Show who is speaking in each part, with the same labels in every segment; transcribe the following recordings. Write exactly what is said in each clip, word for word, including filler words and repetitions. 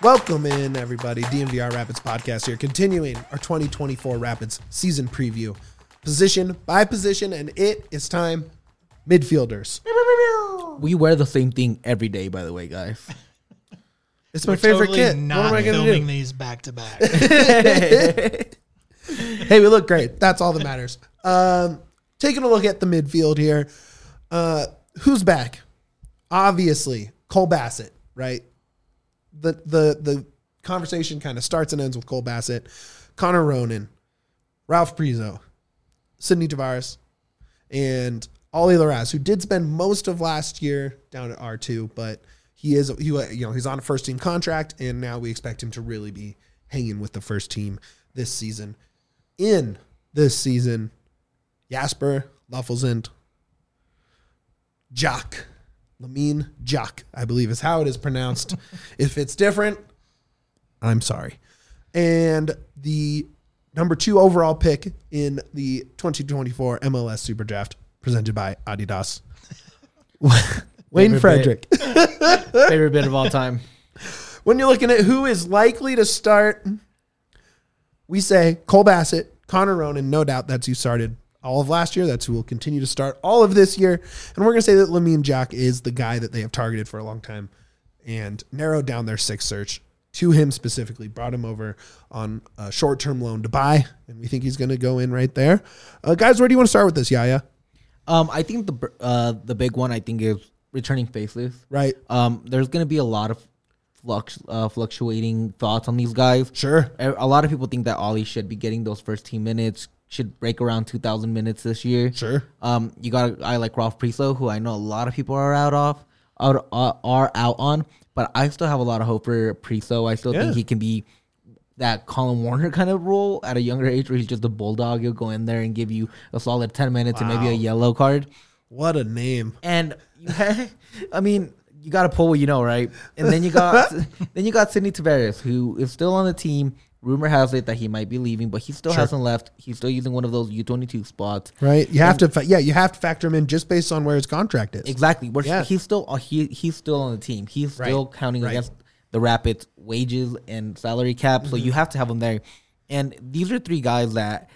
Speaker 1: Welcome in, everybody. D M V R Rapids podcast here, continuing our twenty twenty-four Rapids season preview, position by position, and it is time. Midfielders.
Speaker 2: We wear the same thing every day, by the way, guys.
Speaker 1: It's my
Speaker 3: We're
Speaker 1: favorite
Speaker 3: totally
Speaker 1: kit.
Speaker 3: Not
Speaker 1: What am I going to
Speaker 3: filming
Speaker 1: do?
Speaker 3: these back to back.
Speaker 1: Hey, we look great. That's all that matters. Um, taking a look at the midfield here. Uh, who's back? Obviously, Cole Bassett, right? The the the conversation kind of starts and ends with Cole Bassett, Connor Ronan, Ralph Priso, Sidney Tavares, and Ollie Larraz, who did spend most of last year down at R two, but he is he you know he's on a first team contract, and now we expect him to really be hanging with the first team this season. In this season, Jasper Laffelzend, Jock, Lamine Jock, I believe is how it is pronounced. If it's different, I'm sorry. And the number two overall pick in the twenty twenty-four M L S Super Draft presented by Adidas, Wayne
Speaker 2: Favorite
Speaker 1: Frederick.
Speaker 2: Favorite bit of all time.
Speaker 1: When you're looking at who is likely to start, we say Cole Bassett, Connor Ronan, no doubt that's who started all of last year. That's who will continue to start all of this year. And we're going to say that Lamine Jock is the guy that they have targeted for a long time and narrowed down their sixth search to him specifically, brought him over on a short-term loan to buy, and we think he's going to go in right there. Uh, guys, where do you want to start with this, Yaya?
Speaker 2: Um, I think the uh, the big one I think is returning faceless.
Speaker 1: Right.
Speaker 2: Um, there's going to be a lot of flux, uh, fluctuating thoughts on these guys.
Speaker 1: Sure.
Speaker 2: A, a lot of people think that Ollie should be getting those first team minutes, should break around two thousand minutes this year.
Speaker 1: Sure.
Speaker 2: Um, you got a guy like Ralph Priso, who I know a lot of people are out of, out, uh, are out on, but I still have a lot of hope for Priso. I still
Speaker 1: Yeah.
Speaker 2: think he can be that Colin Warner kind of role at a younger age where he's just a bulldog. He'll go in there and give you a solid ten minutes
Speaker 1: Wow.
Speaker 2: and maybe a yellow card.
Speaker 1: What a name.
Speaker 2: And you I mean, you got to pull what you know, right? And then you got then you got Sidney Tavares, who is still on the team. Rumor has it that he might be leaving, but he still
Speaker 1: Sure.
Speaker 2: hasn't left. He's still using one of those U twenty-two spots.
Speaker 1: Right. You have and, to, fa- yeah, you have to factor him in just based on where his contract is.
Speaker 2: Exactly. We're,
Speaker 1: Yeah.
Speaker 2: He's still uh, he he's still on the team. He's
Speaker 1: Right.
Speaker 2: still counting
Speaker 1: Right.
Speaker 2: against the Rapids' wages and salary cap,
Speaker 1: Mm-hmm.
Speaker 2: so you have to have him there. And these are three guys that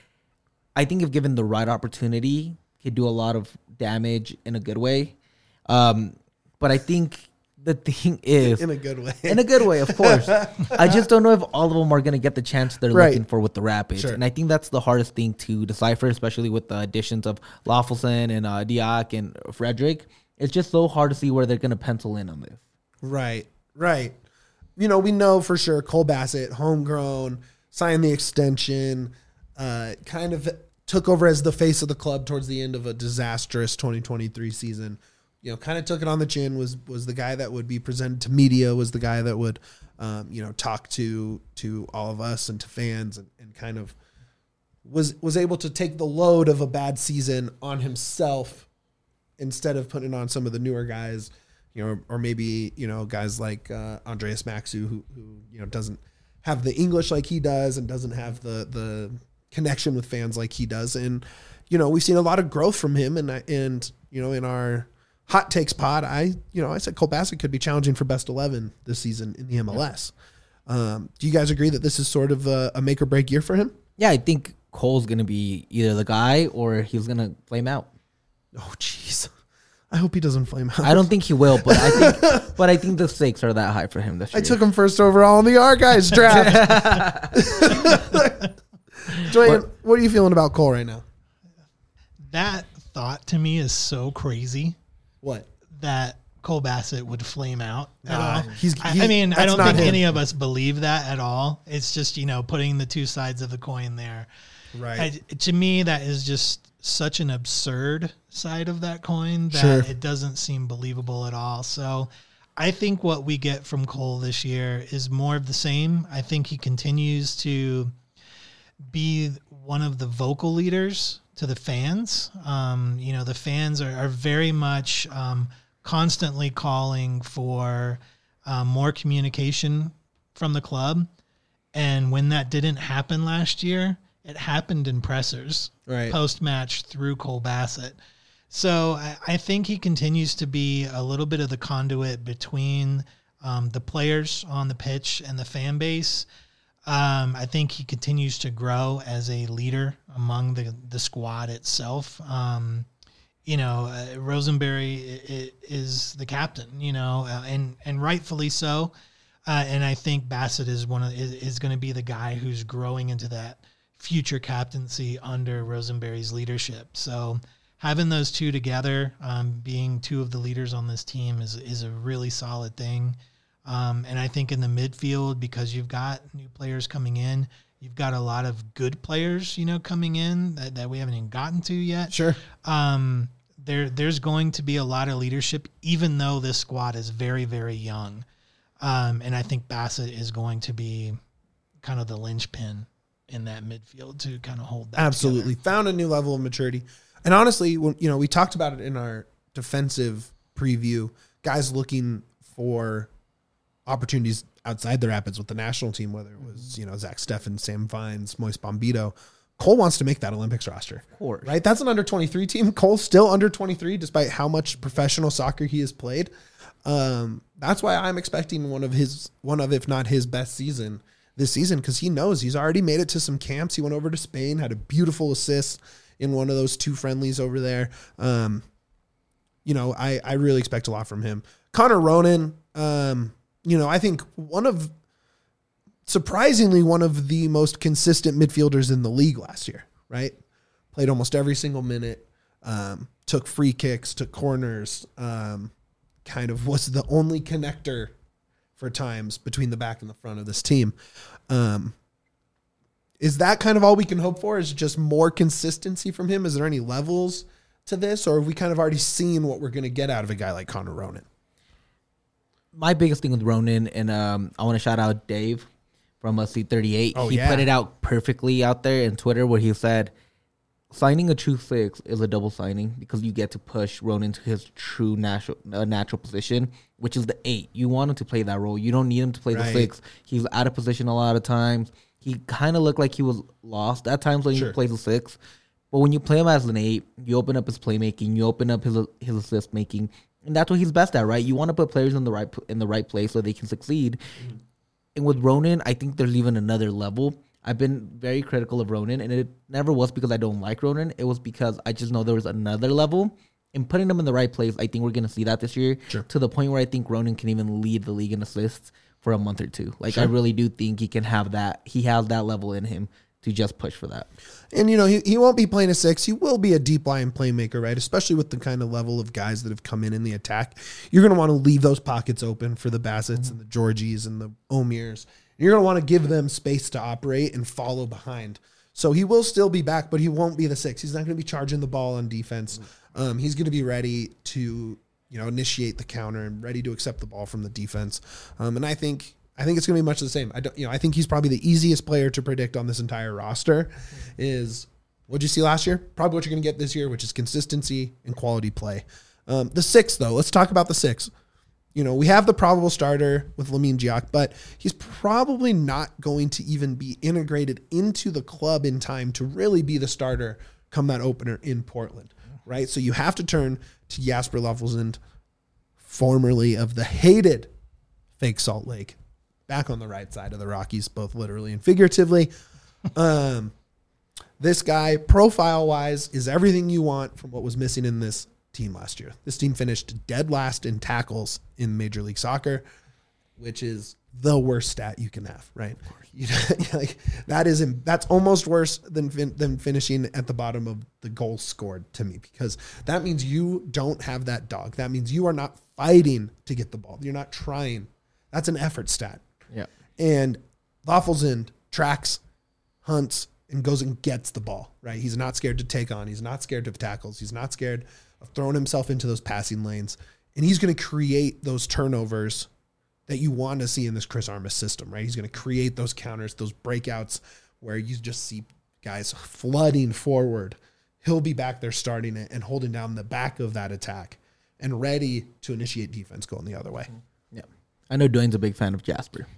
Speaker 2: I think, if given the right opportunity, could do a lot of damage in a good way. Um, but I think the thing is,
Speaker 1: in a good way,
Speaker 2: in a good way, of course. I just don't know if all of them are going to get the chance they're
Speaker 1: Right.
Speaker 2: looking for with the Rapids.
Speaker 1: Sure.
Speaker 2: And I think that's the hardest thing to decipher, especially with the additions of Laffelson and uh, Diak and Frederick. It's just so hard to see where they're going to pencil in on this.
Speaker 1: Right, right. You know, we know for sure Cole Bassett, homegrown, signed the extension, uh, kind of took over as the face of the club towards the end of a disastrous twenty twenty-three season. You know, kind of took it on the chin, was was the guy that would be presented to media, was the guy that would, um, you know, talk to to all of us and to fans, and, and kind of was was able to take the load of a bad season on himself instead of putting it on some of the newer guys. You know, or maybe, you know, guys like uh, Andreas Maxu, who, who, you know, doesn't have the English like he does and doesn't have the the connection with fans like he does. And, you know, we've seen a lot of growth from him. And, and you know, in our hot takes pod, I, you know, I said Cole Bassett could be challenging for best eleven this season in the M L S. Um, do you guys agree that this is sort of a, a make or break year for him?
Speaker 2: Yeah, I think Cole's going to be either the guy or he's going to flame out.
Speaker 1: Oh, jeez. I hope he doesn't flame out.
Speaker 2: I don't think he will, but I think but I think the stakes are that high for him this year.
Speaker 1: I took him first overall in the R guys draft. Dwayne, what, what are you feeling about Cole right now?
Speaker 3: That thought to me is so crazy.
Speaker 1: What?
Speaker 3: That Cole Bassett would flame out at
Speaker 1: Uh,
Speaker 3: all.
Speaker 1: he's,
Speaker 3: I,
Speaker 1: he's,
Speaker 3: I mean, I don't
Speaker 1: not
Speaker 3: think
Speaker 1: him.
Speaker 3: any of us believe that at all. It's just, you know, putting the two sides of the coin there.
Speaker 1: Right.
Speaker 3: I, to me, that is just such an absurd side of that coin that
Speaker 1: Sure.
Speaker 3: it doesn't seem believable at all. So I think what we get from Cole this year is more of the same. I think he continues to be one of the vocal leaders to the fans. Um, you know, the fans are, are very much um, constantly calling for um, more communication from the club. And when that didn't happen last year, it happened in pressers,
Speaker 1: Right.
Speaker 3: post-match through Cole Bassett. So I, I think he continues to be a little bit of the conduit between um, the players on the pitch and the fan base. Um, I think he continues to grow as a leader among the, the squad itself. Um, you know, uh, Rosenberry is the captain, you know, uh, and, and rightfully so. Uh, and I think Bassett is one of is, is going to be the guy who's growing into that future captaincy under Rosenberry's leadership. So having those two together, um, being two of the leaders on this team is is a really solid thing. Um, and I think in the midfield, because you've got new players coming in, you've got a lot of good players, you know, coming in that, that we haven't even gotten to yet.
Speaker 1: Sure.
Speaker 3: Um, there there's going to be a lot of leadership, even though this squad is very, very young. Um, and I think Bassett is going to be kind of the linchpin in that midfield to kind of hold that
Speaker 1: Absolutely.
Speaker 3: together.
Speaker 1: Found a new level of maturity. And honestly, when, you know, we talked about it in our defensive preview, guys looking for opportunities outside the Rapids with the national team, whether it was, you know, Zach Steffen, Sam Vines, Moise Bombito. Cole wants to make that Olympics roster.
Speaker 2: Of course.
Speaker 1: Right? That's an under twenty-three team. Cole's still under twenty-three, despite how much professional soccer he has played. Um, that's why I'm expecting one of his, one of, if not his best season this season, because he knows he's already made it to some camps. He went over to Spain, had a beautiful assist in one of those two friendlies over there. Um, you know, I, I really expect a lot from him. Connor Ronan, um, you know, I think one of, surprisingly, one of the most consistent midfielders in the league last year, right? Played almost every single minute, um, took free kicks, took corners, um, kind of was the only connector for times between the back and the front of this team. Um, is that kind of all we can hope for? Is it just more consistency from him? Is there any levels to this, or have we kind of already seen what we're going to get out of a guy like Connor Ronan?
Speaker 2: My biggest thing with Ronan, and um, I want to shout out Dave from C thirty-eight.
Speaker 1: Oh,
Speaker 2: he
Speaker 1: yeah.
Speaker 2: put it out perfectly out there in Twitter where he said, signing a true six is a double signing because you get to push Ronan to his true natural uh, natural position, which is the eight. You want him to play that role. You don't need him to play
Speaker 1: Right.
Speaker 2: the six. He's out of position a lot of times. He kind of looked like he was lost at times when
Speaker 1: Sure.
Speaker 2: he plays the six. But when you play him as an eight, you open up his playmaking, you open up his his assist making, and that's what he's best at, right? You want to put players in the right in the right place so they can succeed. Mm-hmm. And with Ronan, I think there's even another level. I've been very critical of Ronan, and it never was because I don't like Ronan. It was because I just know there was another level. And putting him in the right place, I think we're going to see that this year.
Speaker 1: Sure.
Speaker 2: To the point where I think Ronan can even lead the league in assists for a month or two. Like,
Speaker 1: Sure.
Speaker 2: I really do think he can have that. He has that level in him to just push for that.
Speaker 1: And, you know, he, he won't be playing a six. He will be a deep line playmaker, right? Especially with the kind of level of guys that have come in in the attack. You're going to want to leave those pockets open for the Bassets and the Georgies and the Omirs. You're going to want to give them space to operate and follow behind. So he will still be back, but he won't be the six. He's not going to be charging the ball on defense. Um, he's going to be ready to, you know, initiate the counter and ready to accept the ball from the defense. Um, and I think I think it's going to be much the same. I don't, you know, I think he's probably the easiest player to predict on this entire roster. Is what'd you see last year? Probably what you're going to get this year, which is consistency and quality play. Um, the six, though, let's talk about the six. You know, we have the probable starter with Lamine Diack, but he's probably not going to even be integrated into the club in time to really be the starter come that opener in Portland, right? So you have to turn to Jasper Löffelsend, formerly of the hated fake Salt Lake, back on the right side of the Rockies, both literally and figuratively. Um, this guy, profile-wise, is everything you want from what was missing in this team last year. This team finished dead last in tackles in Major League Soccer, which is the worst stat you can have, right? You know, like that is that's almost worse than fin- than finishing at the bottom of the goals scored to me, because that means you don't have that dog. That means you are not fighting to get the ball. You're not trying. That's an effort stat.
Speaker 2: Yeah.
Speaker 1: And Löffelsend tracks, hunts, and goes and gets the ball, right? He's not scared to take on. He's not scared of tackles. He's not scared of throwing himself into those passing lanes. And he's going to create those turnovers that you want to see in this Chris Armas system, right? He's going to create those counters, those breakouts where you just see guys flooding forward. He'll be back there starting it and holding down the back of that attack and ready to initiate defense going the other way.
Speaker 2: Yeah. I know Dwayne's a big fan of Jasper.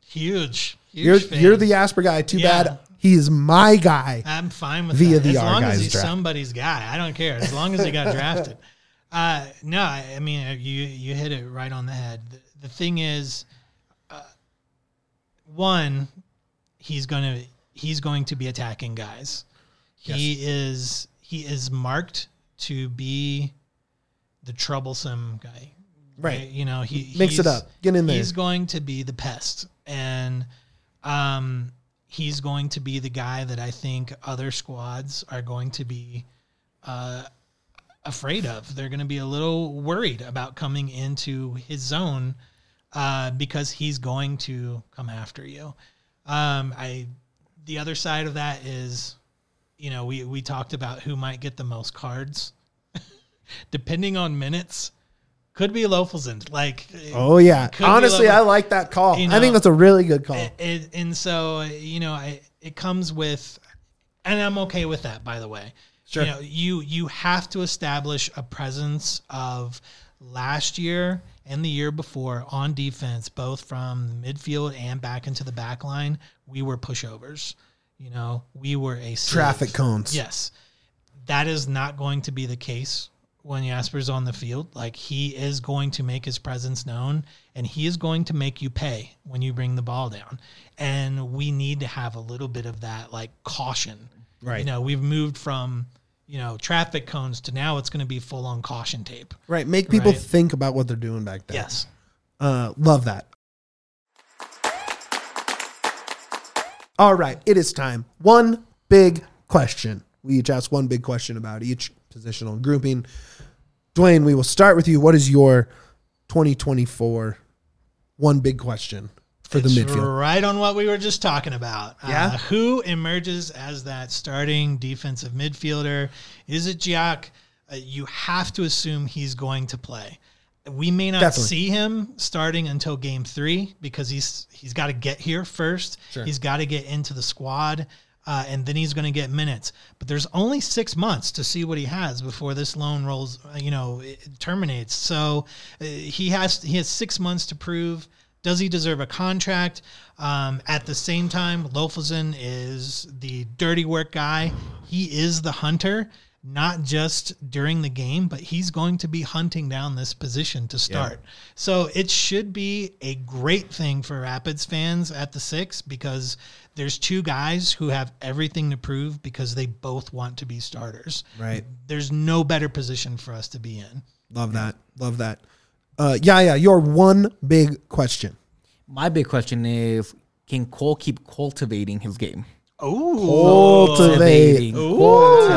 Speaker 3: Huge. huge
Speaker 1: You're,
Speaker 3: fan.
Speaker 1: you're the Jasper guy. Too
Speaker 3: Yeah.
Speaker 1: bad he's my guy.
Speaker 3: I'm fine with
Speaker 1: Via
Speaker 3: that.
Speaker 1: the
Speaker 3: As
Speaker 1: Our
Speaker 3: long
Speaker 1: Guys
Speaker 3: as he's
Speaker 1: draft.
Speaker 3: somebody's guy. I don't care. As long as he got drafted. Uh, no, I, I mean, you you hit it right on the head. The, the thing is, uh, one, he's gonna he's going to be attacking guys. Yes. He is he is marked to be the troublesome guy.
Speaker 1: Right.
Speaker 3: right? You know, he
Speaker 1: mix it up. Get in there.
Speaker 3: He's going to be the pest, and um, he's going to be the guy that I think other squads are going to be uh, afraid of. They're going to be a little worried about coming into his zone uh, because he's going to come after you. Um, I, the other side of that is, you know, we, we talked about who might get the most cards. Depending on minutes, could be Lofelson. Like,
Speaker 1: oh yeah, honestly, I like that call. You know, I think that's a really good call.
Speaker 3: It, it, and so, you know, I, it comes with, and I'm okay with that, by the way.
Speaker 1: Sure.
Speaker 3: You know, you you have to establish a presence of last year and the year before on defense, both from the midfield and back into the back line. We were pushovers. You know, we were a
Speaker 1: traffic
Speaker 3: save.
Speaker 1: cones.
Speaker 3: Yes, that is not going to be the case when Jasper's on the field. Like, he is going to make his presence known, and he is going to make you pay when you bring the ball down. And we need to have a little bit of that, like, caution.
Speaker 1: Right.
Speaker 3: You know, we've moved from, you know, traffic cones to now it's going to be full on caution tape.
Speaker 1: Right. Make people
Speaker 3: right?
Speaker 1: think about what they're doing back there.
Speaker 3: Yes.
Speaker 1: Uh, love that. All right. It is time. One big question. We each ask one big question about each positional grouping. Dwayne, we will start with you. What is your twenty twenty-four one big question for
Speaker 3: it's
Speaker 1: the midfield?
Speaker 3: Right on what we were just talking about.
Speaker 1: Yeah.
Speaker 3: Uh, who emerges as that starting defensive midfielder? Is it Gioc? Uh, you have to assume he's going to play. We may not
Speaker 1: Definitely.
Speaker 3: see him starting until game three because he's he's got to get here first.
Speaker 1: Sure.
Speaker 3: He's got to get into the squad. Uh, and then he's going to get minutes. But there's only six months to see what he has before this loan rolls, you know, it terminates. So uh, he has he has six months to prove. Does he deserve a contract? Um, at the same time, Lofelson is the dirty work guy. He is the hunter, not just during the game, but he's going to be hunting down this position to start. Yeah. So it should be a great thing for Rapids fans at the six because there's two guys who have everything to prove because they both want to be starters.
Speaker 1: Right.
Speaker 3: There's no better position for us to be in.
Speaker 1: Love that. Love that. Uh, yeah, yeah. Your one big question.
Speaker 2: My big question is, can Cole keep cultivating his game?
Speaker 3: Oh,
Speaker 1: cultivating.
Speaker 2: Cultivating.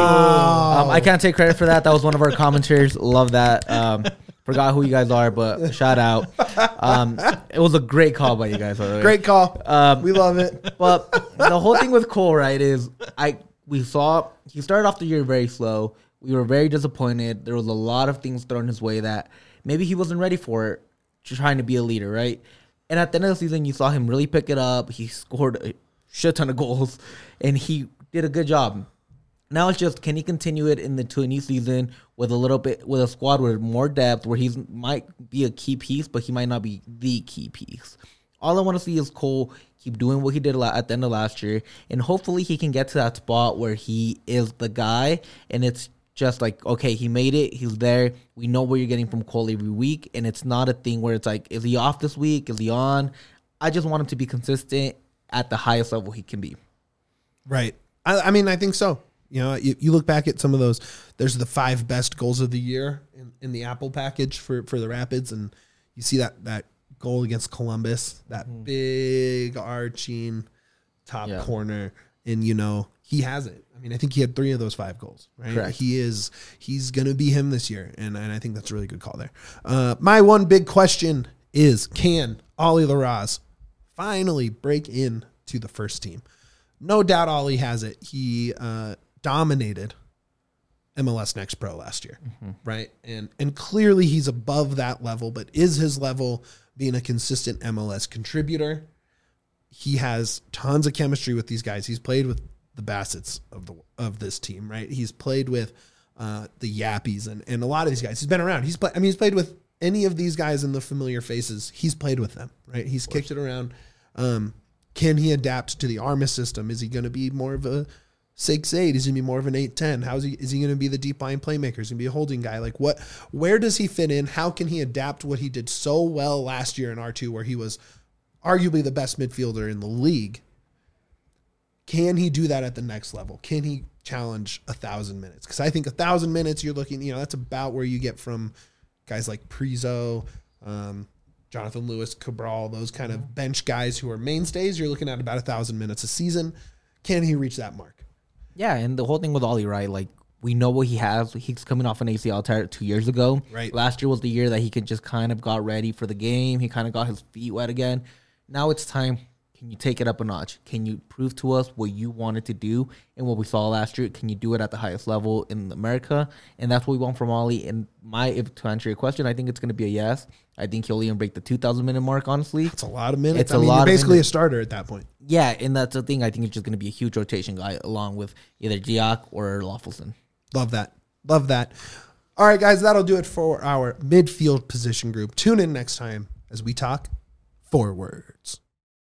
Speaker 2: Um, I can't take credit for that. That was one of our commenters. Love that. Um, forgot who you guys are, but shout out. Um, it was a great call by you guys. By the way.
Speaker 1: Great call.
Speaker 2: Um,
Speaker 1: we love it.
Speaker 2: But the whole thing with Cole, right, is I we saw he started off the year very slow. We were very disappointed. There was a lot of things thrown his way that maybe he wasn't ready for it, trying to be a leader, right? And at the end of the season, you saw him really pick it up. He scored a shit ton of goals, and he did a good job. Now it's just, can he continue it in the to a new season with a little bit, with a squad with more depth, where he might be a key piece, but he might not be the key piece. All I want to see is Cole keep doing what he did at the end of last year, and hopefully he can get to that spot where he is the guy, and it's just like, okay, he made it, he's there. We know what you're getting from Cole every week, and it's not a thing where it's like, is he off this week? Is he on? I just want him to be consistent at the highest level he can be.
Speaker 1: Right. I, I mean, I think so. You know, you, you look back at some of those, there's the five best goals of the year in, in the Apple package for, for the Rapids, and you see that that goal against Columbus, that mm-hmm. big arching top yeah. corner, and, you know, he has it. I mean, I think he had three of those five goals, right?
Speaker 2: Correct.
Speaker 1: He is, he's going to be him this year, and, and I think that's a really good call there. Uh, my one big question is, can Ollie Larraz finally break in to the first team? No doubt Ollie has it. He uh, dominated M L S Next Pro last year, mm-hmm. right? And and clearly he's above that level, but is his level being a consistent M L S contributor? He has tons of chemistry with these guys. He's played with the Bassets of the of this team, right? He's played with uh, the Yappies and, and a lot of these guys. He's been around. He's play, I mean, he's played with any of these guys in the familiar faces. He's played with them, right? He's kicked it around. Um, can he adapt to the Armis system? Is he going to be more of a six eight? Is he going to be more of an eight ten? How is he, is he going to be the deep line playmaker? Is he going to be a holding guy? Like what, where does he fit in? How can he adapt what he did so well last year in R two where he was arguably the best midfielder in the league? Can he do that at the next level? Can he challenge a thousand minutes? Because I think a thousand minutes, you're looking, you know, that's about where you get from guys like Prizo, um, Jonathan Lewis, Cabral, those kind of bench guys who are mainstays. You're looking at about a thousand minutes a season. Can he reach that mark?
Speaker 2: Yeah, and the whole thing with Ollie, right? Like, we know what he has. He's coming off an A C L tear two years ago.
Speaker 1: Right.
Speaker 2: Last year was the year that he could just kind of got ready for the game. He kind of got his feet wet again. Now it's time. Can you take it up a notch? Can you prove to us what you wanted to do and what we saw last year? Can you do it at the highest level in America? And that's what we want from Ollie. And my, if to answer your question, I think it's going to be a yes. I think he'll even break the two thousand minute mark, honestly.
Speaker 1: It's a lot of minutes.
Speaker 2: It's
Speaker 1: I
Speaker 2: a
Speaker 1: mean,
Speaker 2: lot
Speaker 1: you're
Speaker 2: of
Speaker 1: basically
Speaker 2: minutes.
Speaker 1: a starter at that point.
Speaker 2: Yeah, and that's the thing. I think it's just going to be a huge rotation guy along with either Gioc or Loffelson.
Speaker 1: Love that. Love that. All right, guys, that'll do it for our midfield position group. Tune in next time as we talk forwards.